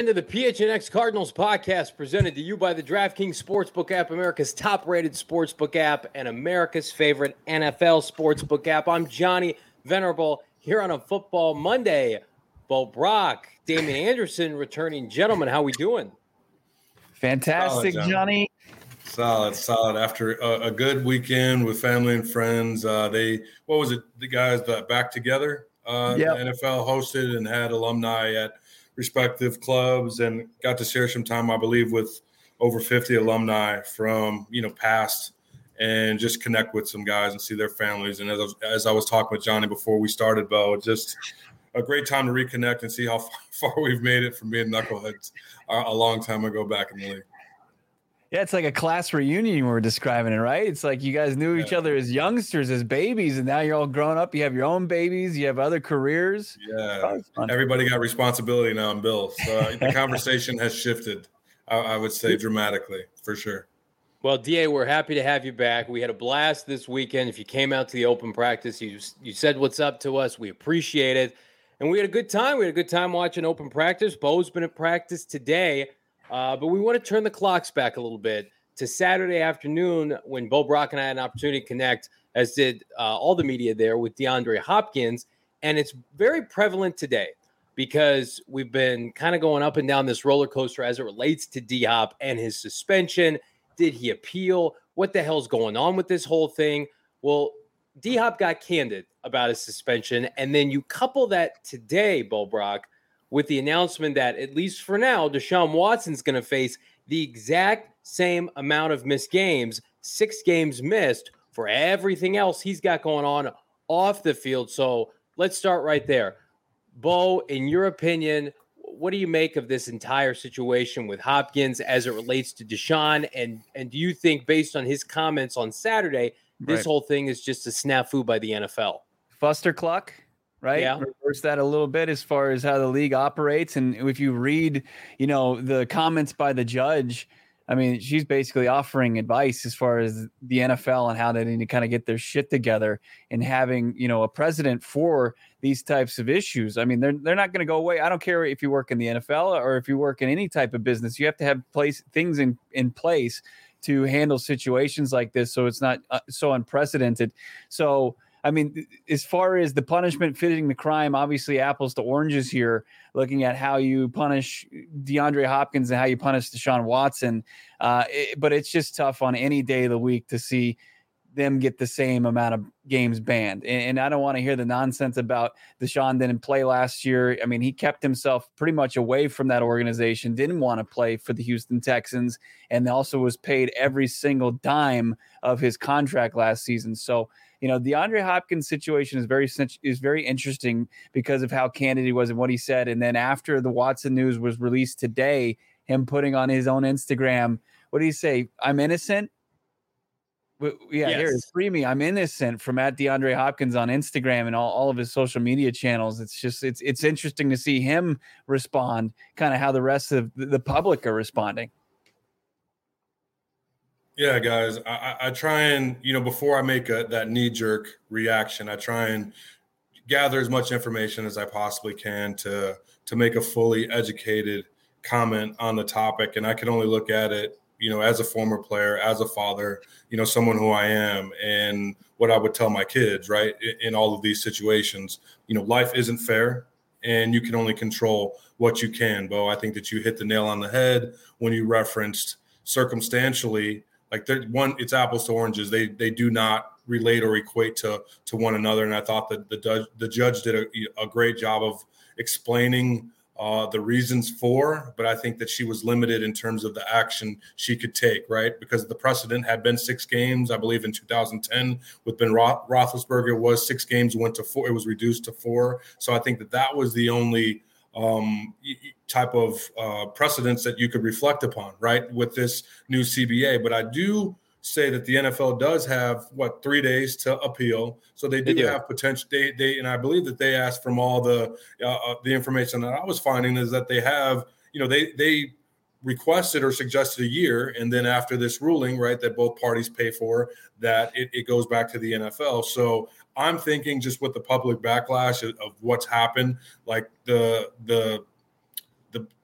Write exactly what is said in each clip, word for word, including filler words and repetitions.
into the P H N X Cardinals podcast, presented to you by the DraftKings Sportsbook app, America's top-rated sportsbook app, and America's favorite N F L sportsbook app. I'm Johnny Venerable here on a Football Monday. Bo Brock, Damian Anderson, returning gentlemen. How we doing? Fantastic, solid, Johnny. Solid, solid. After a, a good weekend with family and friends, uh, they what was it? The guys that back together. Uh, yep. The N F L hosted and had alumni at respective clubs, and got to share some time, I believe, with over fifty alumni from, you know, past, and just connect with some guys and see their families. And as I was, as I was talking with Johnny before we started, Bo, just a great time to reconnect and see how far, far we've made it from being knuckleheads a, a long time ago back in the league. Yeah, it's like a class reunion you were describing it, right? It's like you guys knew yeah. each other as youngsters, as babies, and now you're all grown up. You have your own babies. You have other careers. Yeah, everybody got responsibility now in Bills. So the conversation has shifted, I, I would say, dramatically, for sure. Well, D A, we're happy to have you back. We had a blast this weekend. If you came out to the open practice, you you said what's up to us. We appreciate it. And we had a good time. We had a good time watching open practice. Bo's been at practice today. Uh, but we want to turn the clocks back a little bit to Saturday afternoon when Bo Brock and I had an opportunity to connect, as did uh, all the media there, with DeAndre Hopkins. And it's very prevalent today because we've been kind of going up and down this roller coaster as it relates to D-Hop and his suspension. Did he appeal? What the hell's going on with this whole thing? Well, D-Hop got candid about his suspension. And then you couple that today, Bo Brock, with the announcement that, at least for now, Deshaun Watson's going to face the exact same amount of missed games, six games missed, for everything else he's got going on off the field. So let's start right there. Bo, in your opinion, what do you make of this entire situation with Hopkins as it relates to Deshaun? And, and do you think, based on his comments on Saturday, this right. whole thing is just a snafu by the N F L? Fuster Cluck? Right. Yeah. Reverse that a little bit as far as how the league operates. And if you read, you know, the comments by the judge, I mean, she's basically offering advice as far as the N F L and how they need to kind of get their shit together and having, you know, a precedent for these types of issues. I mean, they're they're not going to go away. I don't care if you work in the N F L or if you work in any type of business. You have to have place things in, in place to handle situations like this, so it's not uh, so unprecedented. So, I mean, as far as the punishment fitting the crime, obviously apples to oranges here, looking at how you punish DeAndre Hopkins and how you punish Deshaun Watson. Uh, it, but it's just tough on any day of the week to see them get the same amount of games banned. And, and I don't want to hear the nonsense about Deshaun didn't play last year. I mean, he kept himself pretty much away from that organization, didn't want to play for the Houston Texans, and also was paid every single dime of his contract last season. So, you know, the DeAndre Hopkins situation is very is very interesting because of how candid he was and what he said. And then after the Watson news was released today, him putting on his own Instagram, what did he say? I'm innocent. Yeah, yes. Here, free me. I'm innocent, from at DeAndre Hopkins on Instagram and all, all of his social media channels. It's just it's it's interesting to see him respond, kind of how the rest of the public are responding. Yeah, guys, I, I try and, you know, before I make a, that knee-jerk reaction, I try and gather as much information as I possibly can to to make a fully educated comment on the topic. And I can only look at it, you know, as a former player, as a father, you know, someone who I am, and what I would tell my kids, right, in, in all of these situations. You know, life isn't fair, and you can only control what you can, Bo. I think that you hit the nail on the head when you referenced circumstantially. Like, one, it's apples to oranges. They they do not relate or equate to to one another. And I thought that the the judge did a, a great job of explaining uh, the reasons for, but I think that she was limited in terms of the action she could take, right? Because the precedent had been six games, I believe in two thousand ten with Ben Roth- Roethlisberger was six games, went to four, it was reduced to four. So I think that that was the only um, type of uh, precedents that you could reflect upon, right, with this new C B A. But I do say that the N F L does have, what, three days to appeal. So they do, they do. have potential. They, they, and I believe that they asked from all the uh, the information that I was finding is that they have, you know, they they requested or suggested a year. And then after this ruling, right, that both parties pay for, that it, it goes back to the N F L. So I'm thinking, just with the public backlash of, of what's happened, like the the the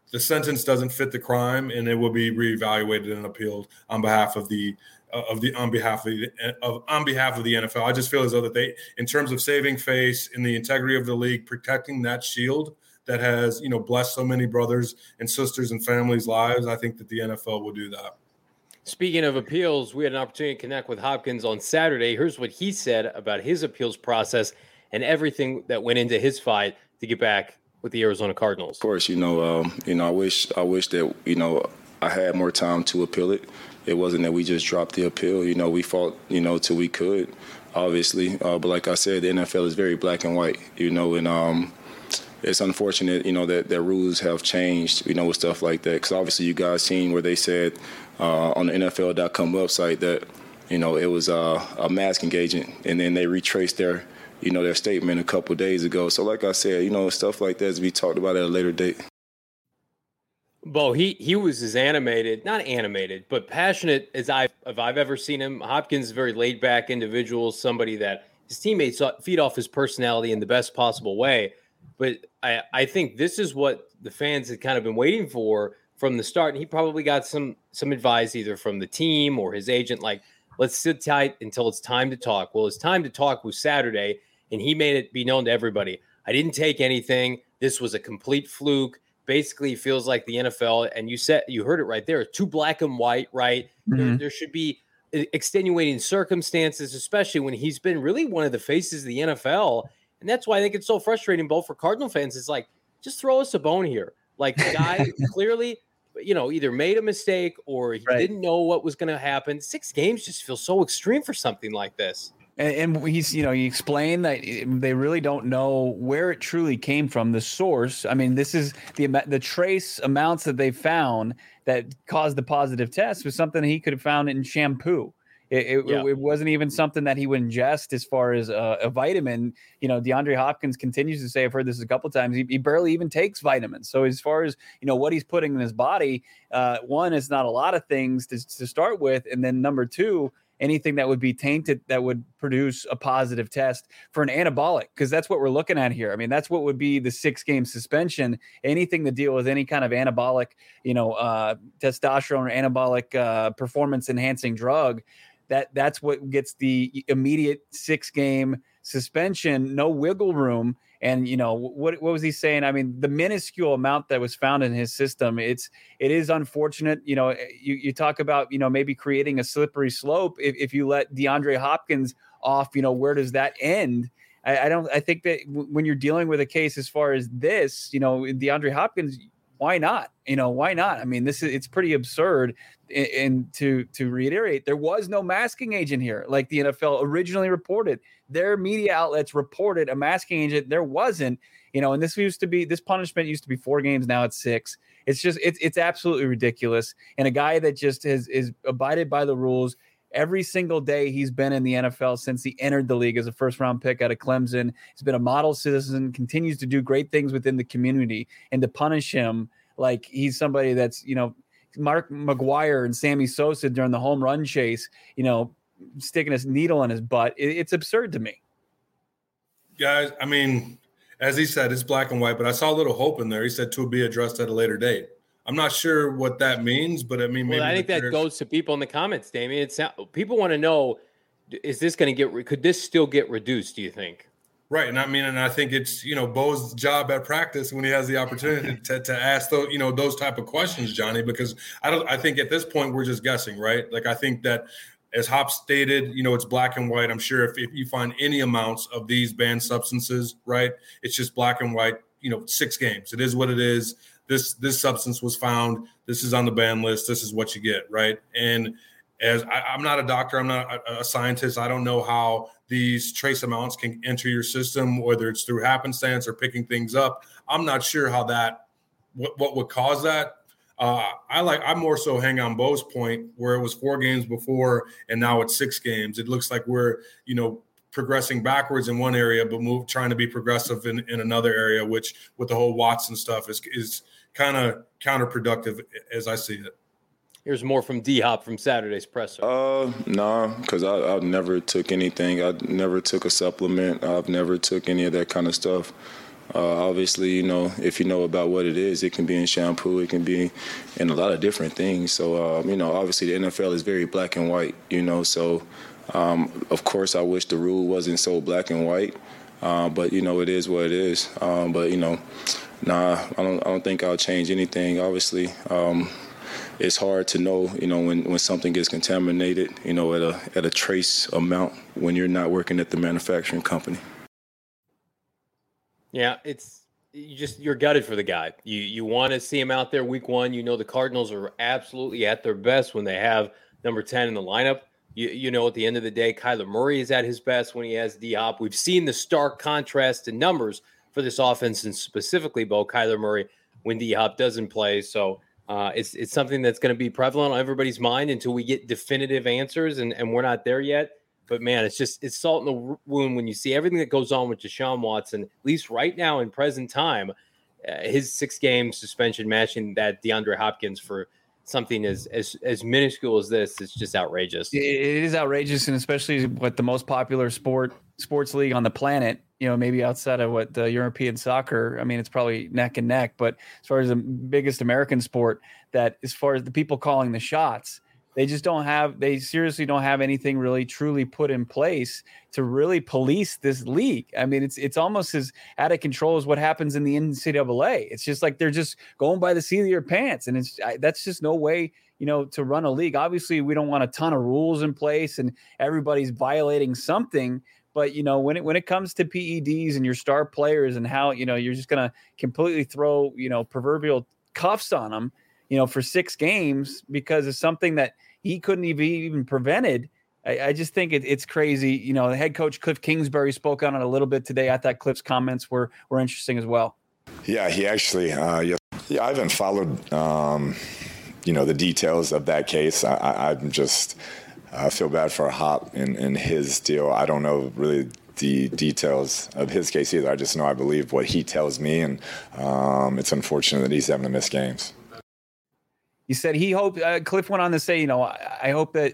the sentence doesn't fit the crime, and it will be reevaluated and appealed on behalf of the of the on behalf of the of on behalf of the N F L. I just feel as though that they, in terms of saving face in the integrity of the league, protecting that shield that has, you know, blessed so many brothers and sisters and families' lives, I think that the N F L will do that. Speaking of appeals, we had an opportunity to connect with Hopkins on Saturday. Here's what he said about his appeals process and everything that went into his fight to get back with the Arizona Cardinals. Of course, you know, um, you know, I wish, I wish that, you know, I had more time to appeal it. It wasn't that we just dropped the appeal. You know, we fought, you know, till we could, obviously. Uh, but like I said, the N F L is very black and white, you know, and um, it's unfortunate, you know, that, that rules have changed, you know, with stuff like that. Because obviously you guys seen where they said uh, on the N F L dot com website that, you know, it was uh, a masking agent, and then they retraced their, you know, their statement a couple of days ago. So like I said, you know, stuff like that is be talked about at a later date. Bo, he he was as animated, not animated, but passionate as I've, if I've ever seen him. Hopkins is a very laid-back individual, somebody that his teammates feed off his personality in the best possible way. But I, I think this is what the fans had kind of been waiting for from the start. And he probably got some some advice either from the team or his agent, like, let's sit tight until it's time to talk. Well, his time to talk was Saturday, and he made it be known to everybody. I didn't take anything. This was a complete fluke. Basically feels like the N F L, and you said you heard it right there, too black and white, right? Mm-hmm. There, there should be extenuating circumstances, especially when he's been really one of the faces of the N F L. And that's why I think it's so frustrating, both for Cardinal fans. It's like, just throw us a bone here. Like, the guy clearly, you know, either made a mistake or he right. didn't know what was going to happen. Six games just feels so extreme for something like this. And, and he's, you know, he explained that they really don't know where it truly came from, the source. I mean, this is the the trace amounts that they found that caused the positive test was something he could have found in shampoo. It, it, yeah. it wasn't even something that he would ingest as far as a, a vitamin. You know, DeAndre Hopkins continues to say, I've heard this a couple of times, he, he barely even takes vitamins. So as far as, you know, what he's putting in his body, uh, one, it's not a lot of things to, to start with. And then number two, anything that would be tainted that would produce a positive test for an anabolic, because that's what we're looking at here. I mean, that's what would be the six game suspension, anything to deal with any kind of anabolic, you know, uh, testosterone or anabolic uh, performance enhancing drug. That that's what gets the immediate six game suspension, no wiggle room. And, you know, what what was he saying? I mean, the minuscule amount that was found in his system, it's it is unfortunate. You know, you, you talk about, you know, maybe creating a slippery slope. If, if you let DeAndre Hopkins off, you know, where does that end? I, I don't I think that w- when you're dealing with a case as far as this, you know, DeAndre Hopkins, why not? You know, why not? I mean, this is it's pretty absurd. And, and to to reiterate, there was no masking agent here, like the N F L originally reported. Their media outlets reported a masking agent. There wasn't, you know, and this used to be this punishment used to be four games. Now it's six. It's just it's it's absolutely ridiculous. And a guy that just has is abided by the rules every single day he's been in the N F L since he entered the league as a first round pick out of Clemson. He's been a model citizen, continues to do great things within the community, and to punish him like he's somebody that's, you know, Mark McGuire and Sammy Sosa during the home run chase, you know, sticking his needle in his butt. It, it's absurd to me. Guys, I mean, as he said, it's black and white, but I saw a little hope in there. He said to be addressed at a later date. I'm not sure what that means, but I mean, maybe well, I think that players... goes to people in the comments, Damien. It's people want to know, is this going to get, could this still get reduced, do you think? Right. And I mean, and I think it's, you know, Bo's job at practice when he has the opportunity to, to ask those, you know, those type of questions, Johnny, because I don't, I think at this point we're just guessing, right? Like, I think that as Hop stated, you know, it's black and white. I'm sure if, if you find any amounts of these banned substances, right, it's just black and white, you know, six games. It is what it is. This, this substance was found. This is on the ban list. This is what you get. Right. And as I, I'm not a doctor, I'm not a, a scientist. I don't know how these trace amounts can enter your system, whether it's through happenstance or picking things up. I'm not sure how that, what, what would cause that. Uh, I like, I more so hang on Bo's point where it was four games before and now it's six games. It looks like we're, you know, progressing backwards in one area, but move trying to be progressive in, in another area, which with the whole Watson stuff is, is kind of counterproductive as I see it. Here's more from D-Hop from Saturday's presser. Uh, no, nah, because I I've never took anything. I never took a supplement. I've never took any of that kind of stuff. Uh, obviously, you know, if you know about what it is, it can be in shampoo, it can be in a lot of different things. So, uh, you know, obviously the N F L is very black and white, you know. So, um, of course, I wish the rule wasn't so black and white. Uh, but, you know, it is what it is. Um, but, you know, nah, I don't, I don't think I'll change anything, obviously. Um, it's hard to know, you know, when, when something gets contaminated, you know, at a at a trace amount when you're not working at the manufacturing company. Yeah, it's you just you're gutted for the guy. You you want to see him out there week one. You know the Cardinals are absolutely at their best when they have number ten in the lineup. You you know at the end of the day, Kyler Murray is at his best when he has D-Hop. We've seen the stark contrast in numbers for this offense, and specifically, Bo, Kyler Murray when D-Hop doesn't play. So uh, it's it's something that's going to be prevalent on everybody's mind until we get definitive answers, and, and we're not there yet. But, man, it's just it's salt in the wound when you see everything that goes on with Deshaun Watson, at least right now in present time, uh, his six-game suspension matching that DeAndre Hopkins for something as, as as minuscule as this. It's just outrageous. It is outrageous, and especially what the most popular sport sports league on the planet, you know, maybe outside of what the European soccer, I mean, it's probably neck and neck. But as far as the biggest American sport, that as far as the people calling the shots, they just don't have, they seriously don't have anything really truly put in place to really police this league. I mean, it's it's almost as out of control as what happens in the N C double A. It's just like they're just going by the seat of your pants. And it's I, that's just no way, you know, to run a league. Obviously, we don't want a ton of rules in place and everybody's violating something. But, you know, when it when it comes to P E Ds and your star players and how, you know, you're just going to completely throw, you know, proverbial cuffs on them, you know, for six games because of something that he couldn't even even prevented. I, I just think it, it's crazy. You know, the head coach Cliff Kingsbury spoke on it a little bit today. I thought Cliff's comments were were interesting as well. Yeah, he actually, uh, yes, yeah, I haven't followed, um, you know, the details of that case. I, I, I'm just, I feel bad for Hop in, in his deal. I don't know really the details of his case either. I just know I believe what he tells me, and um, it's unfortunate that he's having to miss games. He said he hoped, uh, Cliff went on to say, you know, I, I hope that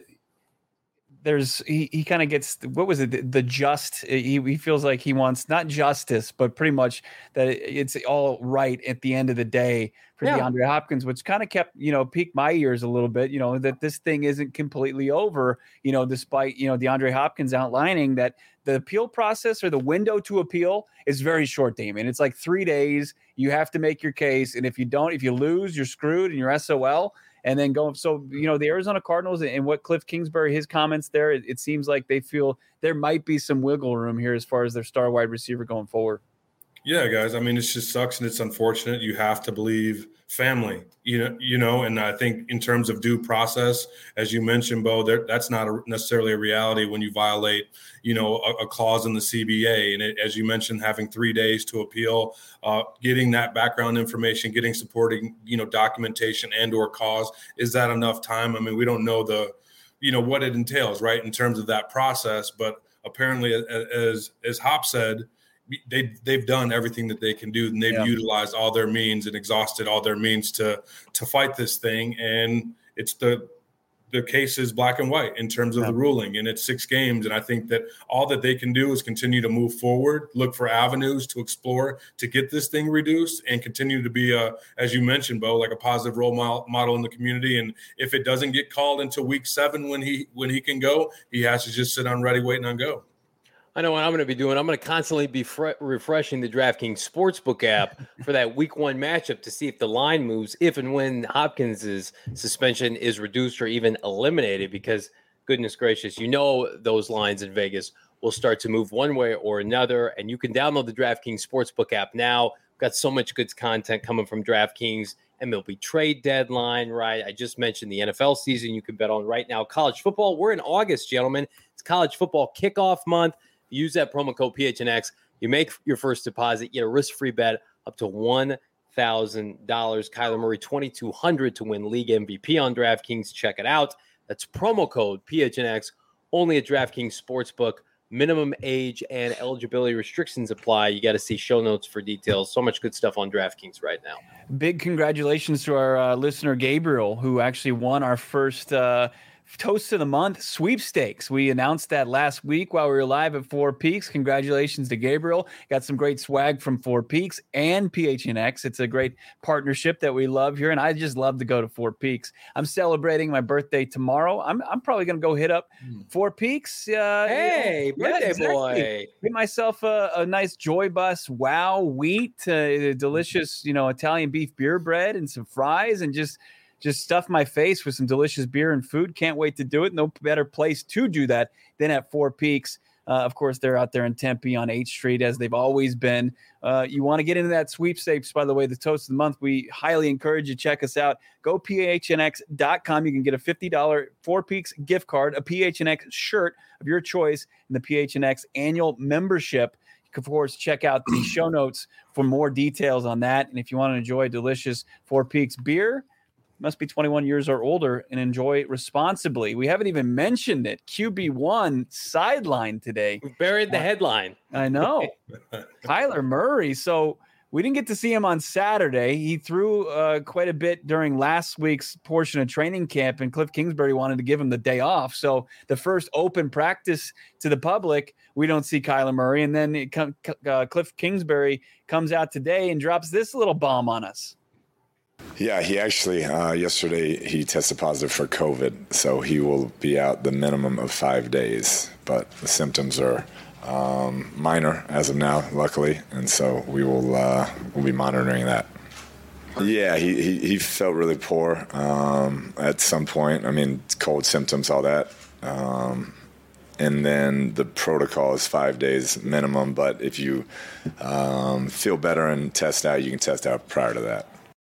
there's, he, he kind of gets, what was it, the, the just, he, he feels like he wants not justice, but pretty much that it's all right at the end of the day for yeah. DeAndre Hopkins, which kind of kept, you know, piqued my ears a little bit, you know, that this thing isn't completely over, you know, despite, you know, DeAndre Hopkins outlining that the appeal process or the window to appeal is very short, Damon. It's like three days. You have to make your case. And if you don't, if you lose, you're screwed and you're S O L. And then go. So, you know, the Arizona Cardinals and what Cliff Kingsbury, his comments there, it, it seems like they feel there might be some wiggle room here as far as their star wide receiver going forward. Yeah, guys. I mean, it just sucks and it's unfortunate. You have to believe family, you know, you know, and I think in terms of due process, as you mentioned, Bo, there, that's not a, necessarily a reality when you violate, you know, a, a clause in the C B A. And it, as you mentioned, having three days to appeal, uh, getting that background information, getting supporting, you know, documentation and or cause, is that enough time? I mean, we don't know the, you know, what it entails, right, in terms of that process. But apparently, as as Hop said, they they've done everything that they can do, and they've yeah. utilized all their means and exhausted all their means to to fight this thing. And it's the the case is black and white in terms of yeah. the ruling, and it's six games. And I think that all that they can do is continue to move forward, look for avenues to explore to get this thing reduced, and continue to be a, as you mentioned, Bo, like a positive role model in the community. And if it doesn't get called until week seven when he when he can go, he has to just sit on ready, waiting on go. I know what I'm going to be doing. I'm going to constantly be fre- refreshing the DraftKings Sportsbook app for that week one matchup to see if the line moves, if and when Hopkins' suspension is reduced or even eliminated, because goodness gracious, you know those lines in Vegas will start to move one way or another. And you can download the DraftKings Sportsbook app now. We've got so much good content coming from DraftKings. M L B trade deadline, right? I just mentioned the N F L season you can bet on right now. College football, we're in August, gentlemen. It's college football kickoff month. Use that promo code P H N X. You make your first deposit, you get a risk-free bet up to one thousand dollars. Kyler Murray, twenty-two hundred dollars to win league M V P on DraftKings. Check it out. That's promo code P H N X, only at DraftKings Sportsbook. Minimum age and eligibility restrictions apply. You got to see show notes for details. So much good stuff on DraftKings right now. Big congratulations to our uh, listener, Gabriel, who actually won our first uh, Toast of the Month sweepstakes. We announced that last week while we were live at Four Peaks. Congratulations to Gabriel. Got some great swag from Four Peaks and P H N X. It's a great partnership that we love here, and I just love to go to Four Peaks. I'm celebrating my birthday tomorrow. I'm I'm probably going to go hit up Four Peaks. Uh, hey, yeah, birthday exactly. boy. Get myself a, a nice Joy Bus Wow wheat, uh, delicious, you know, Italian beef beer bread and some fries, and just Just stuff my face with some delicious beer and food. Can't wait to do it. No better place to do that than at Four Peaks. Uh, of course, they're out there in Tempe on eighth Street, as they've always been. Uh, you want to get into that sweepstakes, by the way, the Toast of the Month. We highly encourage you to check us out. Go P H N X dot com. You can get a fifty dollars Four Peaks gift card, a P H N X shirt of your choice, and the P H N X annual membership. You can, of course, check out the show notes for more details on that. And if you want to enjoy delicious Four Peaks beer, must be twenty-one years or older and enjoy responsibly. We haven't even mentioned it. Q B one sideline today. We buried the headline. I know. Kyler Murray. So we didn't get to see him on Saturday. He threw uh, quite a bit during last week's portion of training camp, and Cliff Kingsbury wanted to give him the day off. So the first open practice to the public, we don't see Kyler Murray. And then it come, uh, Cliff Kingsbury comes out today and drops this little bomb on us. Yeah, he actually, uh, yesterday, he tested positive for COVID, so he will be out the minimum of five days. But the symptoms are um, minor as of now, luckily, and so we will uh, we'll be monitoring that. Yeah, he, he, he felt really poor um, at some point. I mean, cold symptoms, all that. Um, and then the protocol is five days minimum, but if you um, feel better and test out, you can test out prior to that.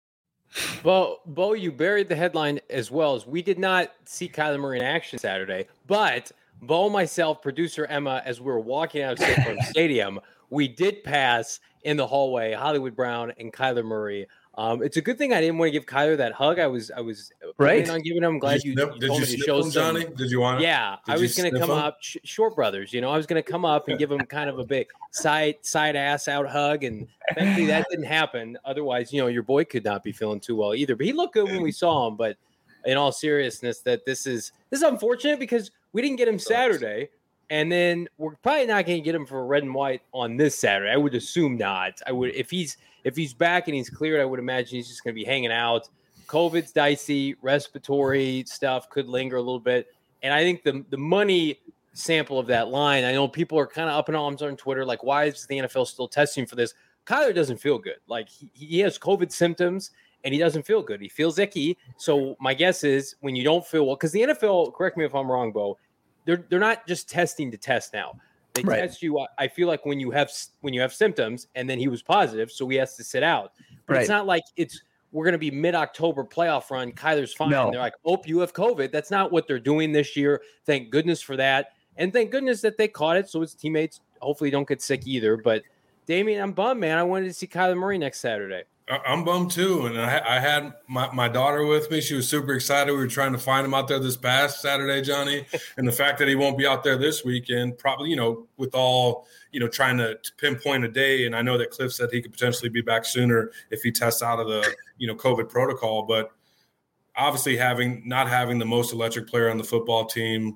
Well, Bo, you buried the headline as well, as we did not see Kyler Murray in action Saturday. But Bo, myself, producer Emma, as we were walking out of State Farm Stadium, we did pass in the hallway Hollywood Brown and Kyler Murray. Um, it's a good thing I didn't want to give Kyler that hug. I was I was right on giving him. I'm glad did you, you, snip, you did told you me to snip show him, some. Johnny? Did you want to? Yeah, did I was going to come him? up, sh- Short Brothers. You know, I was going to come up and give him kind of a big side side ass out hug, and thankfully that didn't happen. Otherwise, you know, your boy could not be feeling too well either. But he looked good when we saw him. But in all seriousness, that this is this is unfortunate because we didn't get him Saturday. And then we're probably not going to get him for red and white on this Saturday. I would assume not. I would if he's if he's back and he's cleared, I would imagine he's just going to be hanging out. COVID's dicey, respiratory stuff could linger a little bit. And I think the the money sample of that line, I know people are kind of up in arms on Twitter, like, why is the N F L still testing for this? Kyler doesn't feel good. Like, he, he has COVID symptoms, and he doesn't feel good. He feels icky. So my guess is when you don't feel well, because the N F L, correct me if I'm wrong, Bo, they're they're not just testing to test now. They right. test you. I feel like when you have when you have symptoms, and then he was positive, so he has to sit out. But right. it's not like it's we're going to be mid-October playoff run. Kyler's fine. No. They're like, oh, you have COVID. That's not what they're doing this year. Thank goodness for that, and thank goodness that they caught it, so his teammates hopefully don't get sick either. But Damien, I'm bummed, man. I wanted to see Kyler Murray next Saturday. I'm bummed too, and I, I had my, my daughter with me. She was super excited. We were trying to find him out there this past Saturday, Johnny, and the fact that he won't be out there this weekend, probably, you know, with all, you know, trying to, to pinpoint a day. And I know that Cliff said he could potentially be back sooner if he tests out of the, you know, COVID protocol. But obviously, having not having the most electric player on the football team,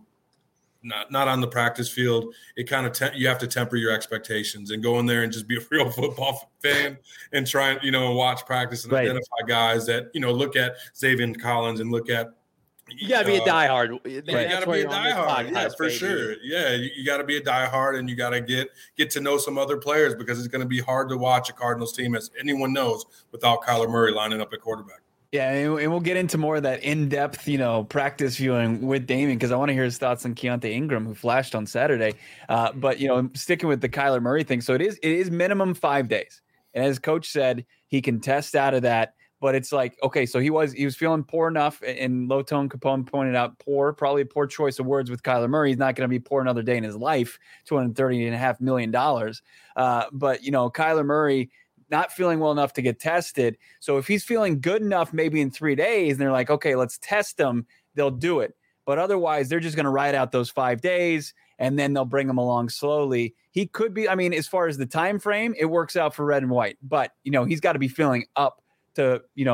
not not on the practice field, it kind of te- you have to temper your expectations and go in there and just be a real football fan and try and, you know, watch practice and right. identify guys that, you know, look at Xavier Collins and look at. You got to be a diehard. You got to be a diehard, yeah, for baby. sure. Yeah, you, you got to be a diehard, and you got to get get to know some other players, because it's going to be hard to watch a Cardinals team, as anyone knows, without Kyler Murray lining up at quarterback. Yeah, and we'll get into more of that in-depth, you know, practice viewing with Damien, because I want to hear his thoughts on Keontae Ingram, who flashed on Saturday. Uh, but, you know, sticking with the Kyler Murray thing, so it is it is minimum five days. And as Coach said, he can test out of that. But it's like, okay, so he was he was feeling poor enough, and Low Tone Capone pointed out poor, probably a poor choice of words with Kyler Murray. He's not going to be poor another day in his life, two hundred thirty point five million dollars. Uh, but, you know, Kyler Murray – not feeling well enough to get tested. So if he's feeling good enough, maybe in three days, and they're like, okay, let's test him, they'll do it. But otherwise, they're just going to ride out those five days, and then they'll bring him along slowly. He could be, I mean, as far as the time frame, it works out for red and white. But, you know, he's got to be feeling up to, you know,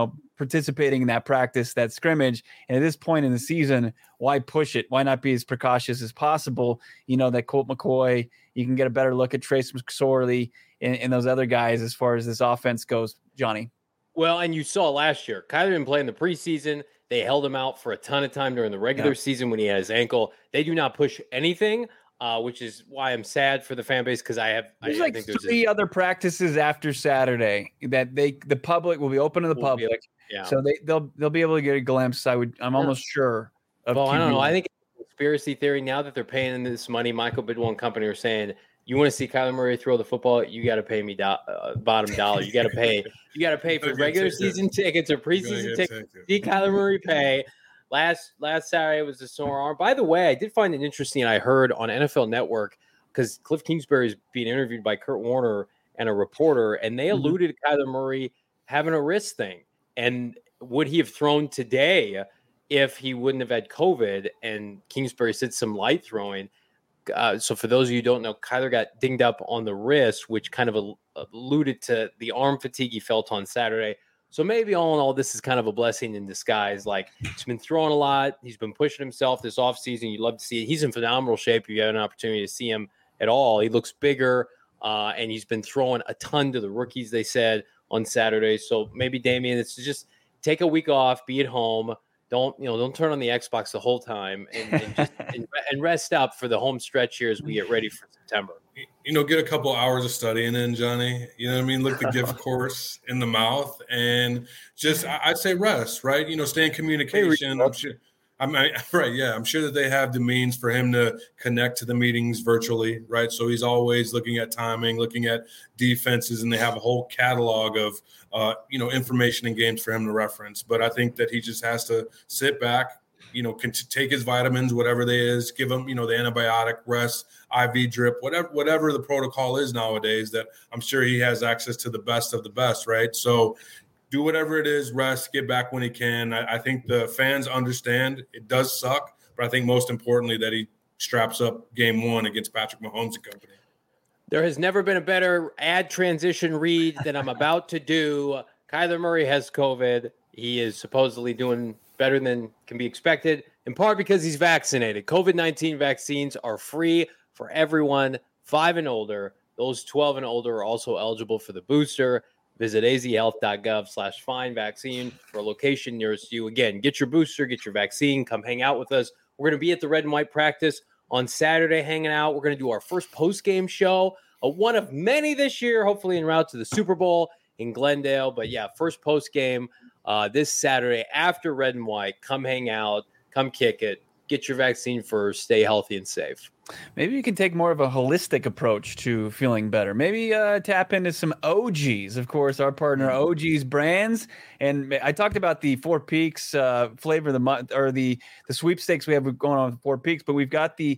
participating in that practice, that scrimmage. And at this point in the season, why push it? Why not be as precautious as possible? You know, that Colt McCoy, you can get a better look at Trace McSorley and, and those other guys as far as this offense goes, Johnny. Well, and you saw last year, Kyler didn't play in the preseason. They held him out for a ton of time during the regular yeah. season when he had his ankle. They do not push anything. Uh, which is why I'm sad for the fan base because I have there's I, like I think there's three a, other practices after Saturday that they the public will be open to the public, yeah. so they they'll they'll be able to get a glimpse. I would I'm yeah. almost sure. Of well, Q B. I don't know. I think it's a conspiracy theory now that they're paying this money. Michael Bidwell and company are saying you want to see Kyler Murray throw the football, you got to pay me do- uh, bottom dollar. You got to pay. You got to pay for regular season tickets or preseason tickets. See Kyler Murray pay. Last last Saturday was a sore arm. By the way, I did find it interesting. I heard on N F L Network. Because Cliff Kingsbury is being interviewed by Kurt Warner and a reporter, and they alluded mm-hmm. to Kyler Murray having a wrist thing. And would he have thrown today if he wouldn't have had COVID? And Kingsbury said some light throwing. Uh, so for those of you who don't know, Kyler got dinged up on the wrist, which kind of alluded to the arm fatigue he felt on Saturday. So maybe all in all, this is kind of a blessing in disguise. Like, he's been throwing a lot. He's been pushing himself this offseason. You'd love to see it. He's in phenomenal shape if you have an opportunity to see him at all. He looks bigger, uh, and he's been throwing a ton to the rookies, they said, on Saturday. So maybe, Damian, it's just take a week off, be at home. Don't, you know, don't turn on the Xbox the whole time and, and just and, and rest up for the home stretch here as we get ready for September. You know, get a couple hours of studying in, Johnny. You know what I mean? Look the gift course in the mouth and just, I'd say rest, right? You know, stay in communication. I'm sure, I'm right. Yeah. I'm sure that they have the means for him to connect to the meetings virtually, right? So he's always looking at timing, looking at defenses, and they have a whole catalog of, uh, you know, information and games for him to reference. But I think that he just has to sit back, you know, can t- take his vitamins, whatever they is, give him, you know, the antibiotic, rest, I V drip, whatever, whatever the protocol is nowadays, that I'm sure he has access to the best of the best, right? So do whatever it is, rest, get back when he can. I, I think the fans understand it does suck, but I think most importantly that he straps up game one against Patrick Mahomes and company. There has never been a better ad transition read than I'm about to do. Kyler Murray has COVID. He is supposedly doing better than can be expected, in part because he's vaccinated. COVID nineteen vaccines are free for everyone five and older. Those twelve and older are also eligible for the booster. Visit azhealth.gov slash find vaccine for a location nearest you. Again, get your booster, get your vaccine, come hang out with us. We're going to be at the red and white practice on Saturday hanging out. We're going to do our first post-game show, a one of many this year, hopefully en route to the Super Bowl in Glendale. But yeah, first post-game uh, this Saturday after red and white. Come hang out, come kick it, get your vaccine first, stay healthy and safe. Maybe you can take more of a holistic approach to feeling better. Maybe uh, tap into some O Gs, of course, our partner O Gs Brands. And I talked about the Four Peaks uh, flavor of the month, or the the sweepstakes we have going on with Four Peaks, but we've got the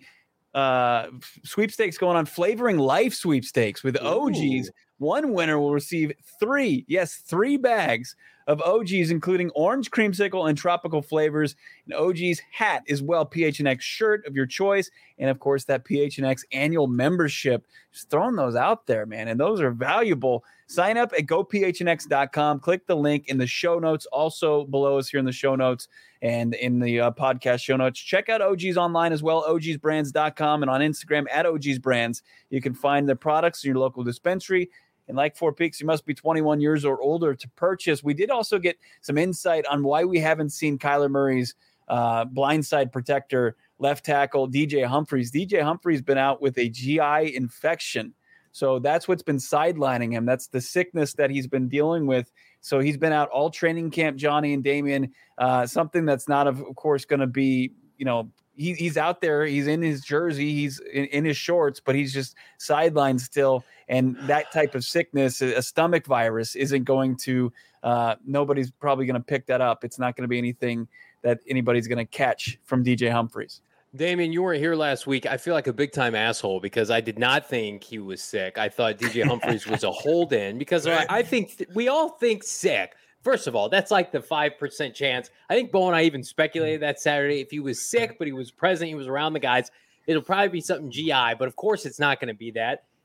uh, sweepstakes going on, Flavoring Life sweepstakes with O Gs. Ooh. One winner will receive three, yes, three bags of O Gs, including orange creamsicle and tropical flavors. An O G's hat as well, P H N X shirt of your choice, and of course that P H N X annual membership. Just throwing those out there, man, and those are valuable. Sign up at go p h n x dot com. Click the link in the show notes, also below us here in the show notes and in the uh, podcast show notes. Check out O Gs online as well, o gs brands dot com, and on Instagram at O Gs Brands. You can find their products in your local dispensary. And like Four Peaks, you must be twenty-one years or older to purchase. We did also get some insight on why we haven't seen Kyler Murray's uh, blindside protector, left tackle, D J Humphries. D J Humphries been out with a G I infection. So that's what's been sidelining him. That's the sickness that he's been dealing with. So he's been out all training camp, Johnny and Damian, uh, something that's not, of course, going to be, you know, he, he's out there. He's in his jersey. He's in, in his shorts, but he's just sidelined still. And that type of sickness, a stomach virus, isn't going to, uh, nobody's probably going to pick that up. It's not going to be anything that anybody's going to catch from D J Humphries. Damian, you weren't here last week. I feel like a big-time asshole because I did not think he was sick. I thought D J Humphries was a hold-in because I, I think th- we all think sick. First of all, that's like the five percent chance. I think Bo and I even speculated that Saturday. If he was sick, but he was present, he was around the guys, it'll probably be something G I. But, of course, it's not going to be that.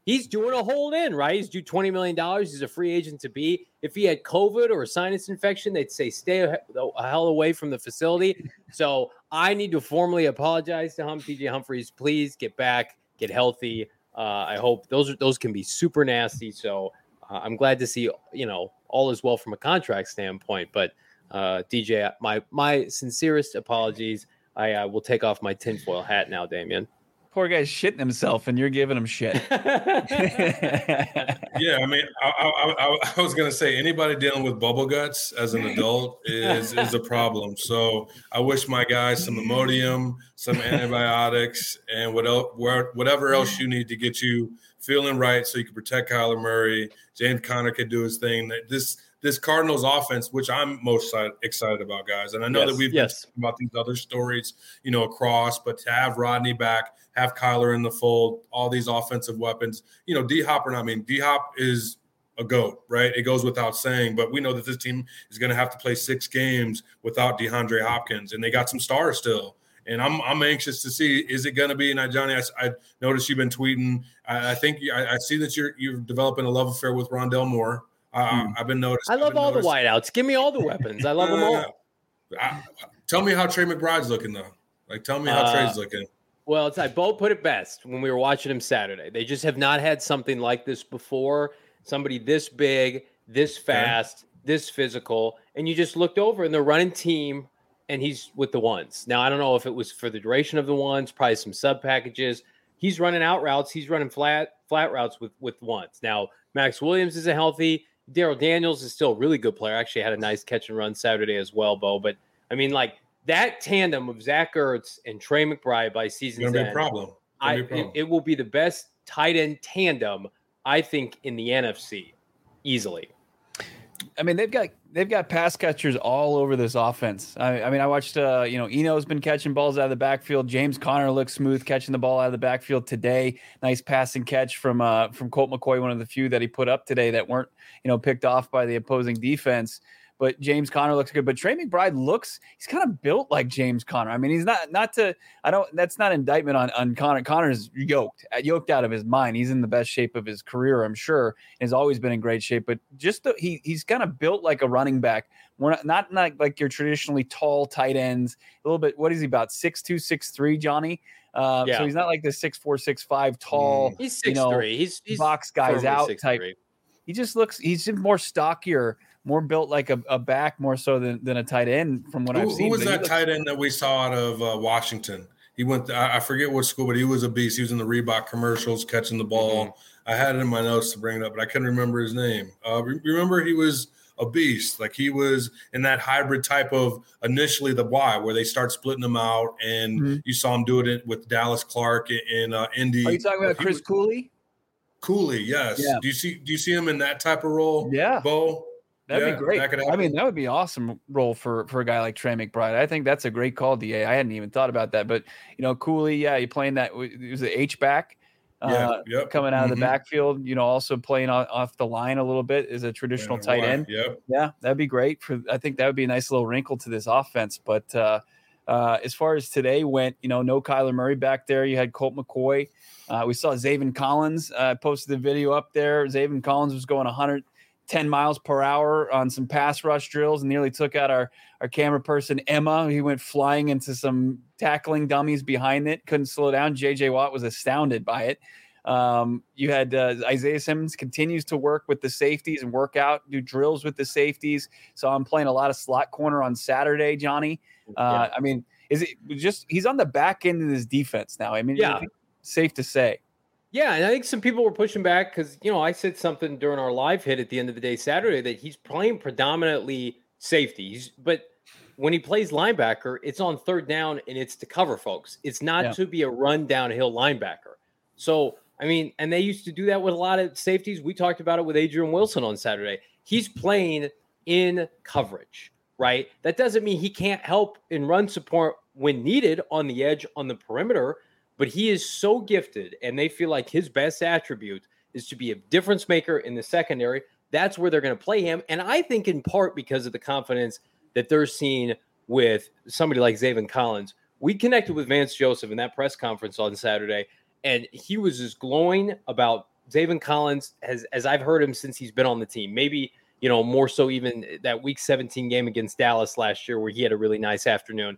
he's doing a hold in, right? He's due twenty million dollars. He's a free agent to be. If he had COVID or a sinus infection, they'd say stay a, a hell away from the facility. So I need to formally apologize to him. T J Humphries, please get back, get healthy. Uh, I hope those are, those can be super nasty. So uh, I'm glad to see, you know, all is well from a contract standpoint. But uh, D J, my my sincerest apologies. I uh, will take off my tinfoil hat now, Damian. Poor guy's shitting himself, and you're giving him shit. Yeah, I mean, I, I, I, I was going to say anybody dealing with bubble guts as an adult is is a problem. So I wish my guys some Imodium, some antibiotics, and what else, whatever else you need to get you feeling right so you can protect Kyler Murray. James Conner can do his thing. This this Cardinals offense, which I'm most excited about, guys. And I know yes, that we've yes. been talking about these other stories, you know, across, but to have Rodney back, have Kyler in the fold, all these offensive weapons, you know, D-Hop or not, I mean, D-Hop is a GOAT, right? It goes without saying, but we know that this team is going to have to play six games without DeAndre Hopkins, and they got some stars still. And I'm I'm anxious to see, is it going to be, and Johnny, I, I noticed you've been tweeting. I, I think I, I see that you're you're developing a love affair with Rondell Moore. Uh, hmm. I've been noticing. I love all noticing. the wideouts. Give me all the weapons. I love uh, them all. I, tell me how Trey McBride's looking, though. Like, tell me how uh, Trey's looking. Well, it's like Bo put it best when we were watching him Saturday. They just have not had something like this before. Somebody this big, this fast, okay. this physical, and you just looked over and they're running team, and he's with the ones. Now, I don't know if it was for the duration of the ones, probably some sub packages. He's running out routes. He's running flat flat routes with, with ones. Now, Max Williams isn't healthy. Darrell Daniels is still a really good player. Actually had a nice catch and run Saturday as well, Bo. But, I mean, like, that tandem of Zach Ertz and Trey McBride by season's end, be a problem. I, be a problem. It, it will be the best tight end tandem, I think, in the N F C, easily. I mean, they've got they've got pass catchers all over this offense. I, I mean, I watched, uh, you know, Eno's been catching balls out of the backfield. James Conner looks smooth catching the ball out of the backfield today. Nice passing catch from uh, from Colt McCoy, one of the few that he put up today that weren't, you know, picked off by the opposing defense. But James Conner looks good. But Trey McBride looks, he's kind of built like James Conner. I mean, he's not, not to, I don't, that's not indictment on, on Conner. Conner's yoked, yoked out of his mind. He's in the best shape of his career, I'm sure. Has always been in great shape. But just the, he he's kind of built like a running back. We're not, not, not like your traditionally tall tight ends. A little bit, what is he about? six two, six three, Johnny? Uh, yeah. So he's not like the six four, six five tall, he's six you know, three. He's, he's box guys out type. three. He just looks, he's just more stockier, more built like a, a back more so than, than a tight end from what who, I've seen. Who was but that looks, tight end that we saw out of uh, Washington? He went, to, I, I forget what school, but he was a beast. He was in the Reebok commercials catching the ball. Mm-hmm. I had it in my notes to bring it up, but I couldn't remember his name. Uh, re- remember he was a beast. Like he was in that hybrid type of initially the Y where they start splitting them out, and mm-hmm. you saw him do it with Dallas Clark in uh, Indy. Are you talking about Chris was, Cooley? Cooley, yes. Yeah. Do you see? Do you see him in that type of role? Yeah, Bo. That'd yeah, be great. That I mean, that would be an awesome role for for a guy like Trey McBride. I think that's a great call, D A. I hadn't even thought about that, but you know, Cooley, yeah, you playing that. It was the H back, yeah, uh, yep. coming out mm-hmm. of the backfield. You know, also playing off, off the line a little bit as a traditional yeah, tight end. Yep. Yeah, that'd be great. For I think that would be a nice little wrinkle to this offense. But uh, uh, as far as today went, you know, no Kyler Murray back there. You had Colt McCoy. Uh, we saw Zaven Collins uh, posted the video up there. Zaven Collins was going one hundred ten miles per hour on some pass rush drills and nearly took out our, our camera person, Emma. He went flying into some tackling dummies behind it. Couldn't slow down. J J Watt was astounded by it. Um, you had uh, Isaiah Simmons continues to work with the safeties and work out, do drills with the safeties. So I'm playing a lot of slot corner on Saturday, Johnny. Uh, yeah. I mean, is it just he's on the back end of his defense now? I mean, yeah. Safe to say. Yeah, and I think some people were pushing back because, you know, I said something during our live hit at the end of the day Saturday that he's playing predominantly safeties, but when he plays linebacker, it's on third down and it's to cover folks. It's not yeah. to be a run downhill linebacker. So, I mean, and they used to do that with a lot of safeties. We talked about it with Adrian Wilson on Saturday. He's playing in coverage, right? That doesn't mean he can't help in run support when needed on the edge, on the perimeter. But he is so gifted, and they feel like his best attribute is to be a difference maker in the secondary. That's where they're going to play him. And I think in part because of the confidence that they're seeing with somebody like Zaven Collins. We connected with Vance Joseph in that press conference on Saturday, and he was as glowing about Zaven Collins has, as I've heard him since he's been on the team, maybe, you know, more so even that week seventeen game against Dallas last year where he had a really nice afternoon.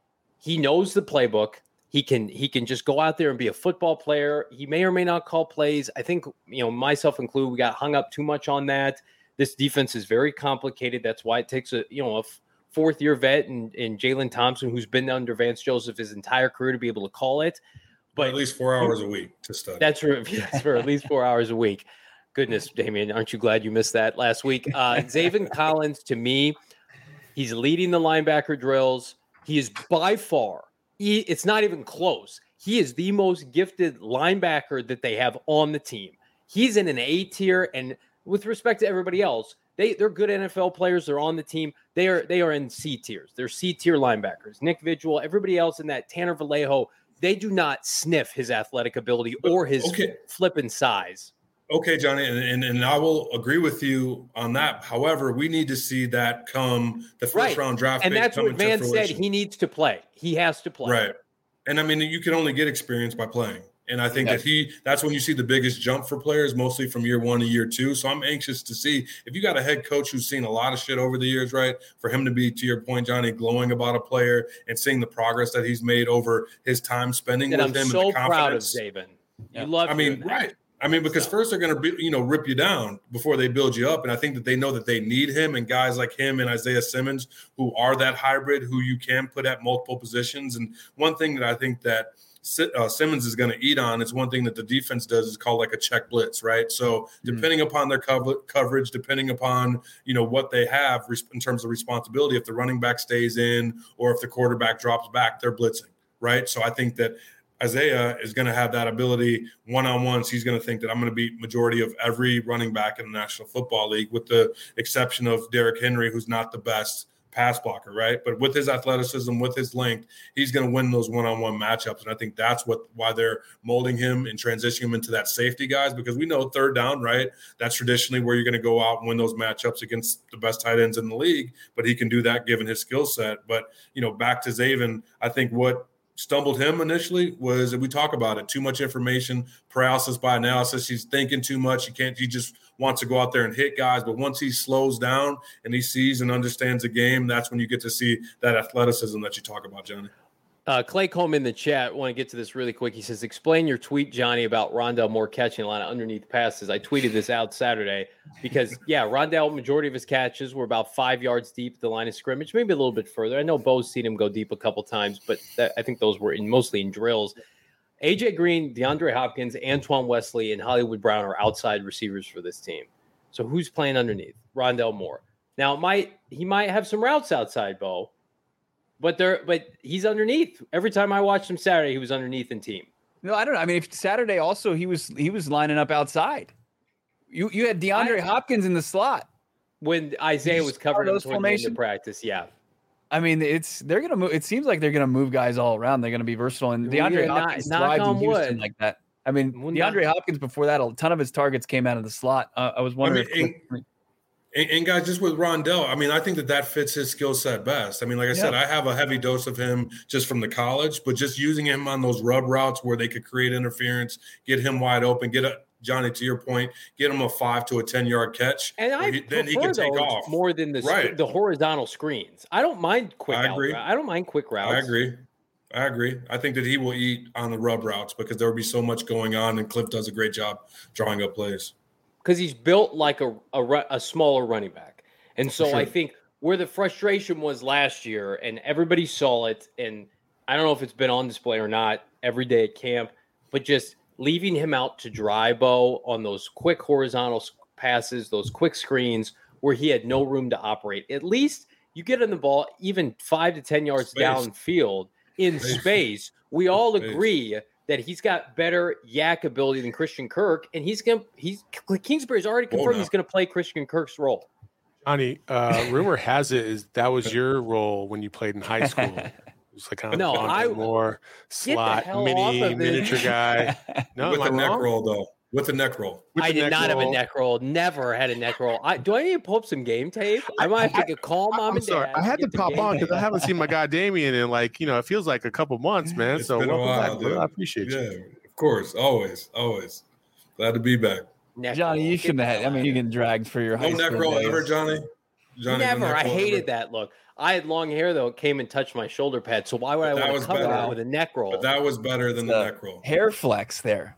He knows the playbook. He can he can just go out there and be a football player. He may or may not call plays. I think, you know, myself included, we got hung up too much on that. This defense is very complicated. That's why it takes a, you know, a fourth year vet and, and Jalen Thompson, who's been under Vance Joseph his entire career, to be able to call it. But at least four hours a week to study. That's for, that's for at least four hours a week. Goodness, Damian, aren't you glad you missed that last week? Uh, Zaven Collins, to me, he's leading the linebacker drills. He is by far, he, it's not even close. He is the most gifted linebacker that they have on the team. He's in an A tier, and with respect to everybody else, they, they're good N F L players. They're on the team. They are they are in C tiers. They're C tier linebackers. Nick Vigil, everybody else in that, Tanner Vallejo, they do not sniff his athletic ability or his okay. flipping size. Okay, Johnny, and, and and I will agree with you on that. However, we need to see that come the first right. round draft. And that's what Vance said. He needs to play. He has to play. Right. And I mean, you can only get experience by playing. And I think yes. that he that's when you see the biggest jump for players, mostly from year one to year two. So I'm anxious to see if you got a head coach who's seen a lot of shit over the years, right? For him to be, to your point, Johnny, glowing about a player and seeing the progress that he's made over his time spending and with I'm him. so and the proud of confidence. Zaven. Yeah. You love I mean, that. right. I mean, because so. first they're going to be, you know, rip you down before they build you up. And I think that they know that they need him and guys like him and Isaiah Simmons, who are that hybrid, who you can put at multiple positions. And one thing that I think that uh, Simmons is going to eat on is one thing that the defense does is called like a check blitz, right? So depending mm-hmm. upon their cover- coverage, depending upon, you know, what they have in terms of responsibility, if the running back stays in or if the quarterback drops back, they're blitzing, right? So I think that Isaiah is going to have that ability one-on-ones. He's going to think that I'm going to beat majority of every running back in the National Football League, with the exception of Derrick Henry, who's not the best pass blocker, right? But with his athleticism, with his length, he's going to win those one-on-one matchups. And I think that's what why they're molding him and transitioning him into that safety guys, because we know third down, right? That's traditionally where you're going to go out and win those matchups against the best tight ends in the league. But he can do that given his skill set. But, you know, back to Zaven, I think what stumbled him initially was, and we talk about it, too much information, paralysis by analysis. He's thinking too much. He can't, he just wants to go out there and hit guys. But once he slows down and he sees and understands the game, that's when you get to see that athleticism that you talk about, Johnny. Uh, Clay Combe in the chat, want to get to this really quick. He says, explain your tweet, Johnny, about Rondale Moore catching a lot of underneath passes. I tweeted this out Saturday because, yeah, Rondale, majority of his catches were about five yards deep at the line of scrimmage, maybe a little bit further. I know Bo's seen him go deep a couple times, but that, I think those were in, mostly in drills. A J Green, DeAndre Hopkins, Antoine Wesley, and Hollywood Brown are outside receivers for this team. So who's playing underneath? Rondale Moore. Now, it might he might have some routes outside, Bo. But they're but he's underneath. Every time I watched him Saturday, he was underneath in team. No, I don't know. I mean, if Saturday also he was he was lining up outside. You you had DeAndre I, Hopkins in the slot when Isaiah was covering those formation practice. Yeah, I mean, it's they're gonna move. It seems like they're gonna move guys all around. They're gonna be versatile, and DeAndre not, Hopkins thrives in Houston wood. like that. I mean, DeAndre not. Hopkins before that, a ton of his targets came out of the slot. Uh, I was wondering. I mean, if, And, and guys, just with Rondale, I mean, I think that that fits his skill set best. I mean, like I yeah. said, I have a heavy dose of him just from the college, but just using him on those rub routes where they could create interference, get him wide open, get a Johnny, to your point, get him a five to a ten yard catch, and I he, then he can take off more than the right. the horizontal screens. I don't mind quick. I agree. Out, I don't mind quick routes. I agree. I agree. I think that he will eat on the rub routes because there will be so much going on, and Cliff does a great job drawing up plays. Because he's built like a, a a smaller running back. And so sure. I think where the frustration was last year, and everybody saw it, and I don't know if it's been on display or not every day at camp, but just leaving him out to dry, Bo, on those quick horizontal passes, those quick screens where he had no room to operate. At least you get in the ball even five to ten yards space. downfield in space. space. We all space. agree that he's got better yak ability than Christian Kirk, and he's going to – he's Kingsbury's already confirmed he's going to play Christian Kirk's role. Johnny, uh, rumor has it is that was your role when you played in high school. It was like kind of no, I, more slot, mini, miniature guy. No, with am the I neck wrong? roll, though. With the neck roll. With I the did not roll. have a neck roll. Never had a neck roll. I, do I need to pull up some game tape? I might have to call mom I'm and sorry. dad. I had to pop on because I tape. haven't seen my guy Damien in like, you know, it feels like a couple months, man. It's so been a welcome while, back, dude. I appreciate yeah, you. of course. Always. Always. Glad to be back. Neck Johnny, roll. you shouldn't have. I mean, you get dragged for your No high neck school roll days. ever, Johnny. Johnny, Never. no neck I roll hated ever? that look. I had long hair though. It came and touched my shoulder pad. So why would But I that want was to cover better. it with a neck roll? But that was better than It's the a neck roll. Hair flex there.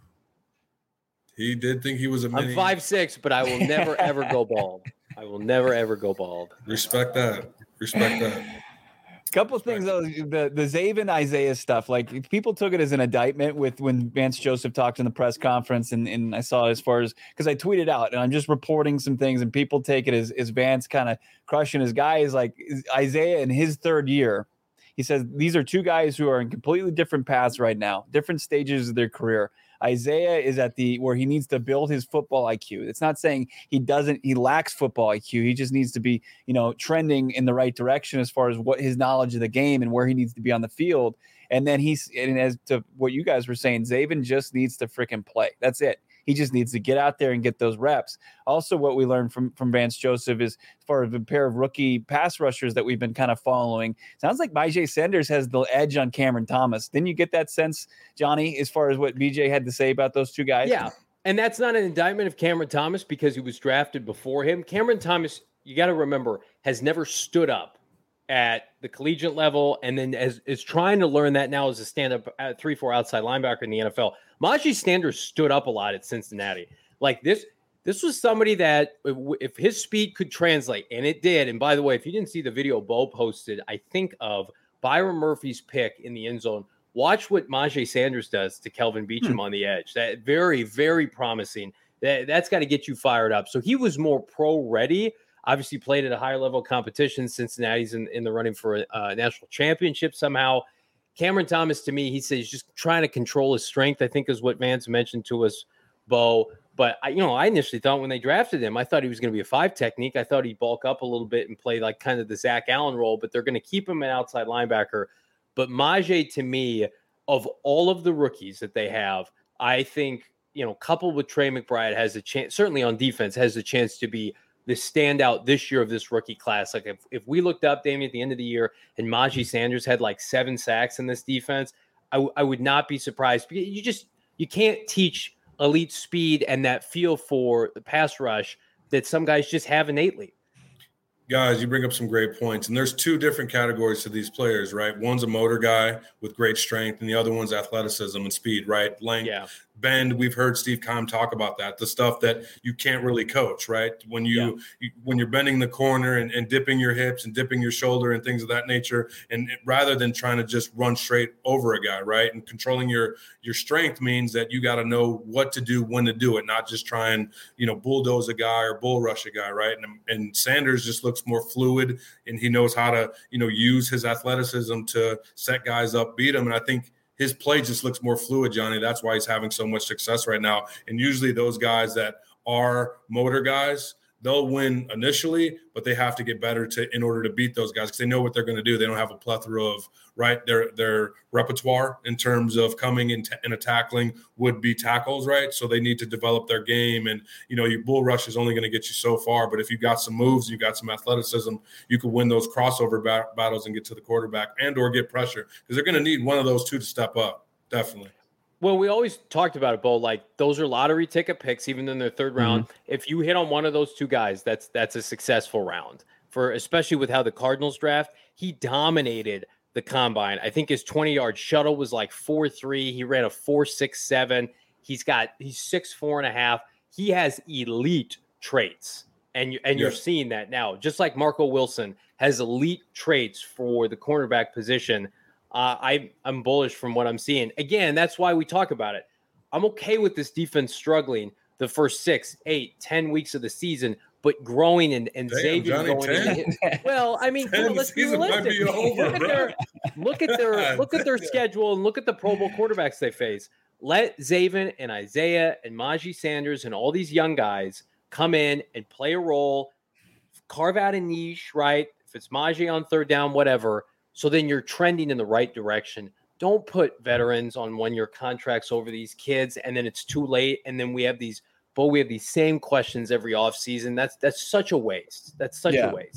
He did think he was a mini. I'm five six, but I will never ever go bald. I will never ever go bald. Respect that. Respect that. Couple of things though, the the Zaven Isaiah stuff, like people took it as an indictment with when Vance Joseph talked in the press conference, and, and I saw it as far as because I tweeted out and I'm just reporting some things, and people take it as, as Vance kind of crushing his guys. Like Isaiah in his third year, he says these are two guys who are in completely different paths right now, different stages of their career. Isaiah is at the where he needs to build his football I Q. It's not saying he doesn't, he lacks football I Q. He just needs to be, you know, trending in the right direction as far as what his knowledge of the game and where he needs to be on the field. And then he's, and as to what you guys were saying, Zaven just needs to freaking play. That's it. He just needs to get out there and get those reps. Also, what we learned from, from Vance Joseph is as far as a pair of rookie pass rushers that we've been kind of following. Sounds like Myjai Sanders has the edge on Cameron Thomas. Didn't you get that sense, Johnny, as far as what B J had to say about those two guys? Yeah. And that's not an indictment of Cameron Thomas because he was drafted before him. Cameron Thomas, you got to remember, has never stood up at the collegiate level, and then as is trying to learn that now as a stand-up at three four outside linebacker in the N F L. Myjai Sanders stood up a lot at Cincinnati. Like this, this was somebody that if, if his speed could translate, and it did. And by the way, if you didn't see the video Bo posted, I think of Byron Murphy's pick in the end zone. Watch what Myjai Sanders does to Kelvin Beachum hmm. on the edge. That very, very promising. That that's got to get you fired up. So he was more pro ready. Obviously played at a higher level of competition. Cincinnati's in, in the running for a, a national championship somehow. Cameron Thomas, to me, he says he's just trying to control his strength, I think is what Vance mentioned to us, Bo. But, I, you know, I initially thought when they drafted him, I thought he was going to be a five technique. I thought he'd bulk up a little bit and play like kind of the Zach Allen role, but they're going to keep him an outside linebacker. But Myjai, to me, of all of the rookies that they have, I think, you know, coupled with Trey McBride, has a chance, certainly on defense, has a chance to be the standout this year of this rookie class. Like if, if we looked up, Damien, at the end of the year and Myjai Sanders had like seven sacks in this defense, I, w- I would not be surprised. You just, you can't teach elite speed and that feel for the pass rush that some guys just have innately. Guys, you bring up some great points, and there's two different categories to these players, right? One's a motor guy with great strength, and the other one's athleticism and speed, right? Length, yeah. bend. We've heard Steve Keim talk about that, the stuff that you can't really coach, right? When you, yeah. you when you're bending the corner and, and dipping your hips and dipping your shoulder and things of that nature, and it, rather than trying to just run straight over a guy, right? And controlling your your strength means that you got to know what to do, when to do it, not just try and, you know, bulldoze a guy or bull rush a guy, right? And, and Sanders just looks more fluid, and he knows how to, you know, use his athleticism to set guys up, beat them. And I think his play just looks more fluid, Johnny. That's why he's having so much success right now. And usually those guys that are motor guys, they'll win initially, but they have to get better to in order to beat those guys because they know what they're going to do. They don't have a plethora of, right, their their repertoire in terms of coming in t- and a tackling would be tackles, right? So they need to develop their game. And, you know, your bull rush is only going to get you so far. But if you got some moves, you got some athleticism, you could win those crossover ba- battles and get to the quarterback and or get pressure because they're going to need one of those two to step up, definitely. Well, we always talked about it, Bo. Like those are lottery ticket picks, even in their third round. Mm-hmm. If you hit on one of those two guys, that's that's a successful round. For especially with how the Cardinals draft, he dominated the combine. I think his twenty-yard shuttle was like four three. He ran a four six seven. He's got he's six four and a half. He has elite traits, and you and yeah. you're seeing that now. Just like Marco Wilson has elite traits for the cornerback position. Uh, I, I'm bullish from what I'm seeing. Again, that's why we talk about it. I'm okay with this defense struggling the first six, eight, ten weeks of the season, but growing and, and Damn, Xavier Johnny, going. Into, well, I mean, come on, let's be realistic. Be over, look, at their, look at their look at their schedule and look at the Pro Bowl quarterbacks they face. Let Zaven and Isaiah and Myjai Sanders and all these young guys come in and play a role, carve out a niche, right? If it's Myjai on third down, whatever. So then you're trending in the right direction. Don't put veterans on one-year contracts over these kids, and then it's too late. And then we have these, but we have these same questions every offseason. That's that's such a waste. That's such yeah. a waste.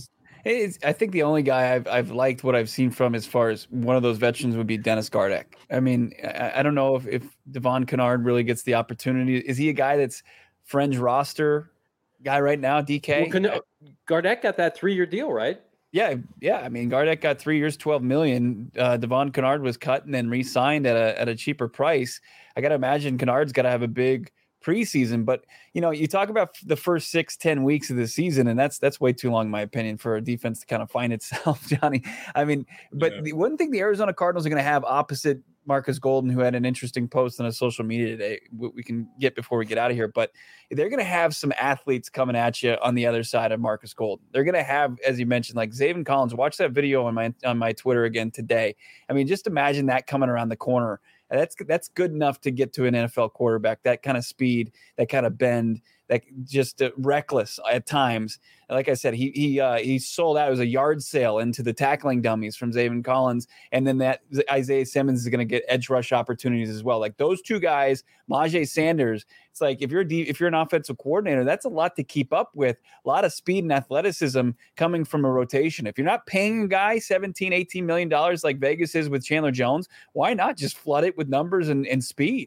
It's, I think the only guy I've I've liked what I've seen from as far as one of those veterans would be Dennis Gardeck. I mean, I, I don't know if, if Devon Kennard really gets the opportunity. Is he a guy that's fringe roster guy right now, D K? Well, Can, Gardeck got that three-year deal, right? Yeah, yeah. I mean, Gardeck got three years, twelve million. Uh, Devon Kennard was cut and then re-signed at a at a cheaper price. I got to imagine Kennard's got to have a big preseason, but you know, you talk about the first six, ten weeks of the season, and that's that's way too long, in my opinion, for a defense to kind of find itself, Johnny. I mean, but yeah. the one thing the Arizona Cardinals are going to have opposite Marcus Golden, who had an interesting post on his social media today, we can get before we get out of here, but they're going to have some athletes coming at you on the other side of Marcus Golden. They're going to have, as you mentioned, like Zaven Collins. Watch that video on my on my Twitter again today. I mean, just imagine that coming around the corner. That's that's good enough to get to an N F L quarterback. That kind of speed, that kind of bend, that just uh, reckless at times. Like I said, he he uh, he sold out. It was a yard sale into the tackling dummies from Zaven Collins, and then that Isaiah Simmons is going to get edge rush opportunities as well. Like those two guys, Najee Sanders. It's like if you're a D, if you're an offensive coordinator, that's a lot to keep up with. A lot of speed and athleticism coming from a rotation. If you're not paying a guy seventeen, eighteen million dollars like Vegas is with Chandler Jones, why not just flood it with numbers and, and speed?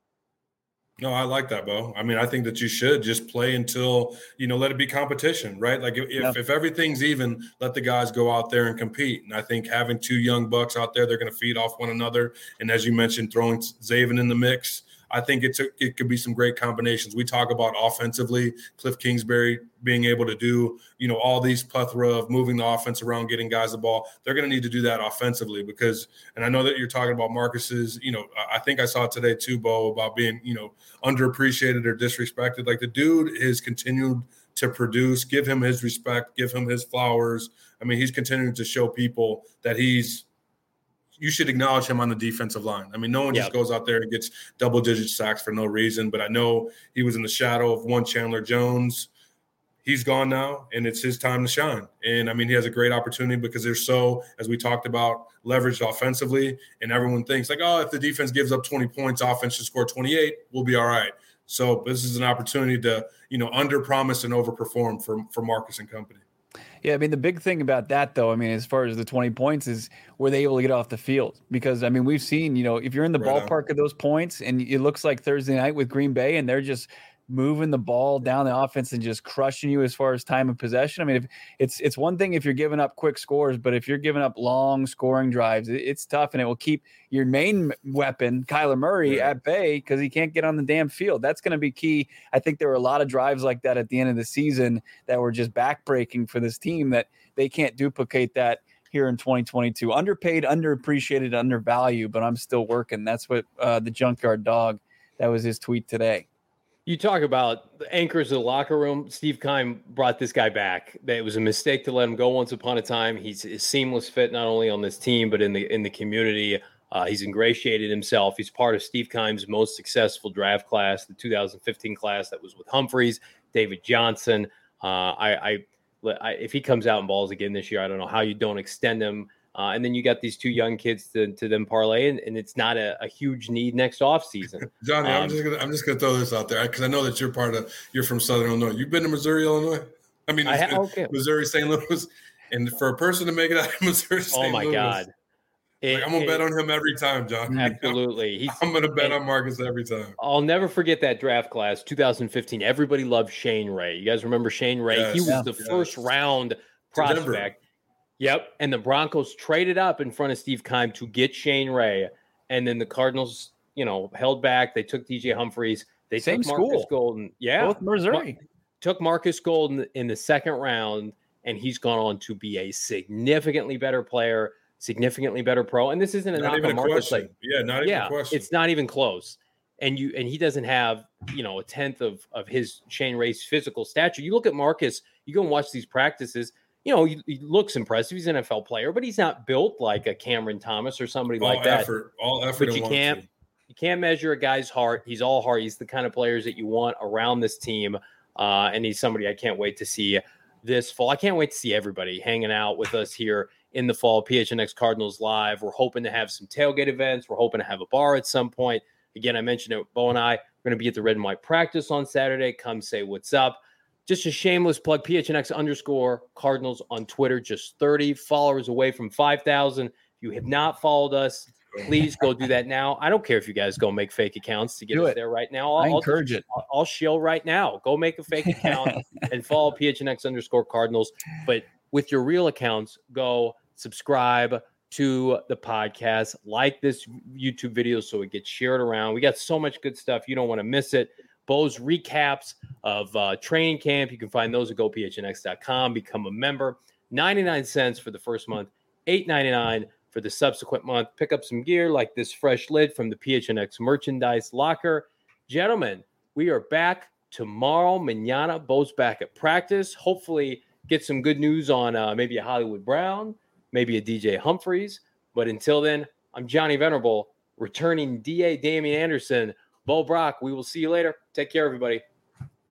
No, I like that, Bo. I mean, I think that you should just play until, you know, let it be competition, right? Like if, yeah. if everything's even, let the guys go out there and compete. And I think having two young bucks out there, they're going to feed off one another. And as you mentioned, throwing Zaven in the mix, I think it's a, it could be some great combinations. We talk about offensively, Cliff Kingsbury being able to do, you know, all these plethora of moving the offense around, getting guys the ball. They're going to need to do that offensively because, and I know that you're talking about Marcus's, you know, I think I saw today too, Bo, about being, you know, underappreciated or disrespected. Like the dude is continued to produce, give him his respect, give him his flowers. I mean, he's continuing to show people that he's, you should acknowledge him on the defensive line. I mean, no one yep. just goes out there and gets double-digit sacks for no reason, but I know he was in the shadow of one Chandler Jones. He's gone now, and it's his time to shine. And, I mean, he has a great opportunity because they're so, as we talked about, leveraged offensively, and everyone thinks, like, oh, if the defense gives up twenty points, offense should score twenty-eight, we'll be all right. So this is an opportunity to, you know, under-promise and over-perform for, for Marcus and company. Yeah, I mean, the big thing about that, though, I mean, as far as the twenty points is, were they able to get off the field? Because, I mean, we've seen, you know, if you're in the right ballpark on. of those points and it looks like Thursday night with Green Bay and they're just moving the ball down the offense and just crushing you as far as time of possession. I mean, if it's it's one thing if you're giving up quick scores, but if you're giving up long scoring drives, it, it's tough, and it will keep your main weapon, Kyler Murray, yeah. at bay because he can't get on the damn field. That's going to be key. I think there were a lot of drives like that at the end of the season that were just backbreaking for this team that they can't duplicate that here in twenty twenty-two. Underpaid, underappreciated, undervalued, but I'm still working. That's what uh, the Junkyard Dog, that was his tweet today. You talk about the anchors of the locker room. Steve Keim brought this guy back. It was a mistake to let him go once upon a time. He's a seamless fit, not only on this team, but in the in the community. Uh, he's ingratiated himself. He's part of Steve Keim's most successful draft class, the two thousand fifteen class that was with Humphreys, David Johnson. Uh, I, I, I, if he comes out and balls again this year, I don't know how you don't extend him. Uh, and then you got these two young kids to, to them parlay, and, and it's not a, a huge need next offseason. Johnny, um, I'm just gonna I'm just gonna throw this out there because I know that you're part of you're from Southern Illinois. You've been to Missouri, Illinois. I mean, I ha- okay. Missouri, Saint Louis, and for a person to make it out of Missouri, Saint oh my Louis, God, it, like, I'm gonna it, bet on him every time, John. Absolutely, He's, I'm gonna bet on Marcus every time. I'll never forget that draft class, two thousand fifteen. Everybody loved Shane Ray. You guys remember Shane Ray? Yes, he was yeah, the yes. first round prospect. Yep, and the Broncos traded up in front of Steve Keim to get Shane Ray, and then the Cardinals, you know, held back. They took D J Humphreys. They Same took Marcus school. Golden. Yeah, both Missouri. Ma- took Marcus Golden in the second round, and he's gone on to be a significantly better player, significantly better pro. And this isn't a not knock on Marcus. Like, yeah, not even yeah, a question. It's not even close. And you and he doesn't have, you know, a tenth of of his Shane Ray's physical stature. You look at Marcus. You go and watch these practices. You know, he, he looks impressive. He's an N F L player, but he's not built like a Cameron Thomas or somebody all like that. Effort, all effort, but you can't, two. you can't measure a guy's heart. He's all heart. He's the kind of players that you want around this team, uh, and he's somebody I can't wait to see this fall. I can't wait to see everybody hanging out with us here in the fall. P H N X Cardinals Live. We're hoping to have some tailgate events. We're hoping to have a bar at some point. Again, I mentioned it. Bo and I are going to be at the Red and White practice on Saturday. Come say what's up. just a shameless plug, P H N X underscore Cardinals on Twitter, just thirty followers away from five thousand. If you have not followed us, please go do that now. I don't care if you guys go make fake accounts to get Do us it. there right now. I'll, I I'll encourage just, it. I'll, I'll shill right now. Go make a fake account and follow P H N X underscore Cardinals. But with your real accounts, go subscribe to the podcast, like this YouTube video so it gets shared around. We got so much good stuff. You don't want to miss it. Bo's recaps of uh, training camp. You can find those at go P H N X dot com. Become a member. ninety-nine cents for the first month, eight ninety-nine for the subsequent month. Pick up some gear like this fresh lid from the P H N X merchandise locker. Gentlemen, we are back tomorrow. Mañana, Bo's back at practice. Hopefully get some good news on uh, maybe a Hollywood Brown, maybe a D J Humphreys. But until then, I'm Johnny Venerable, returning D A Damian Anderson. Bo Brock, we will see you later. Take care, everybody.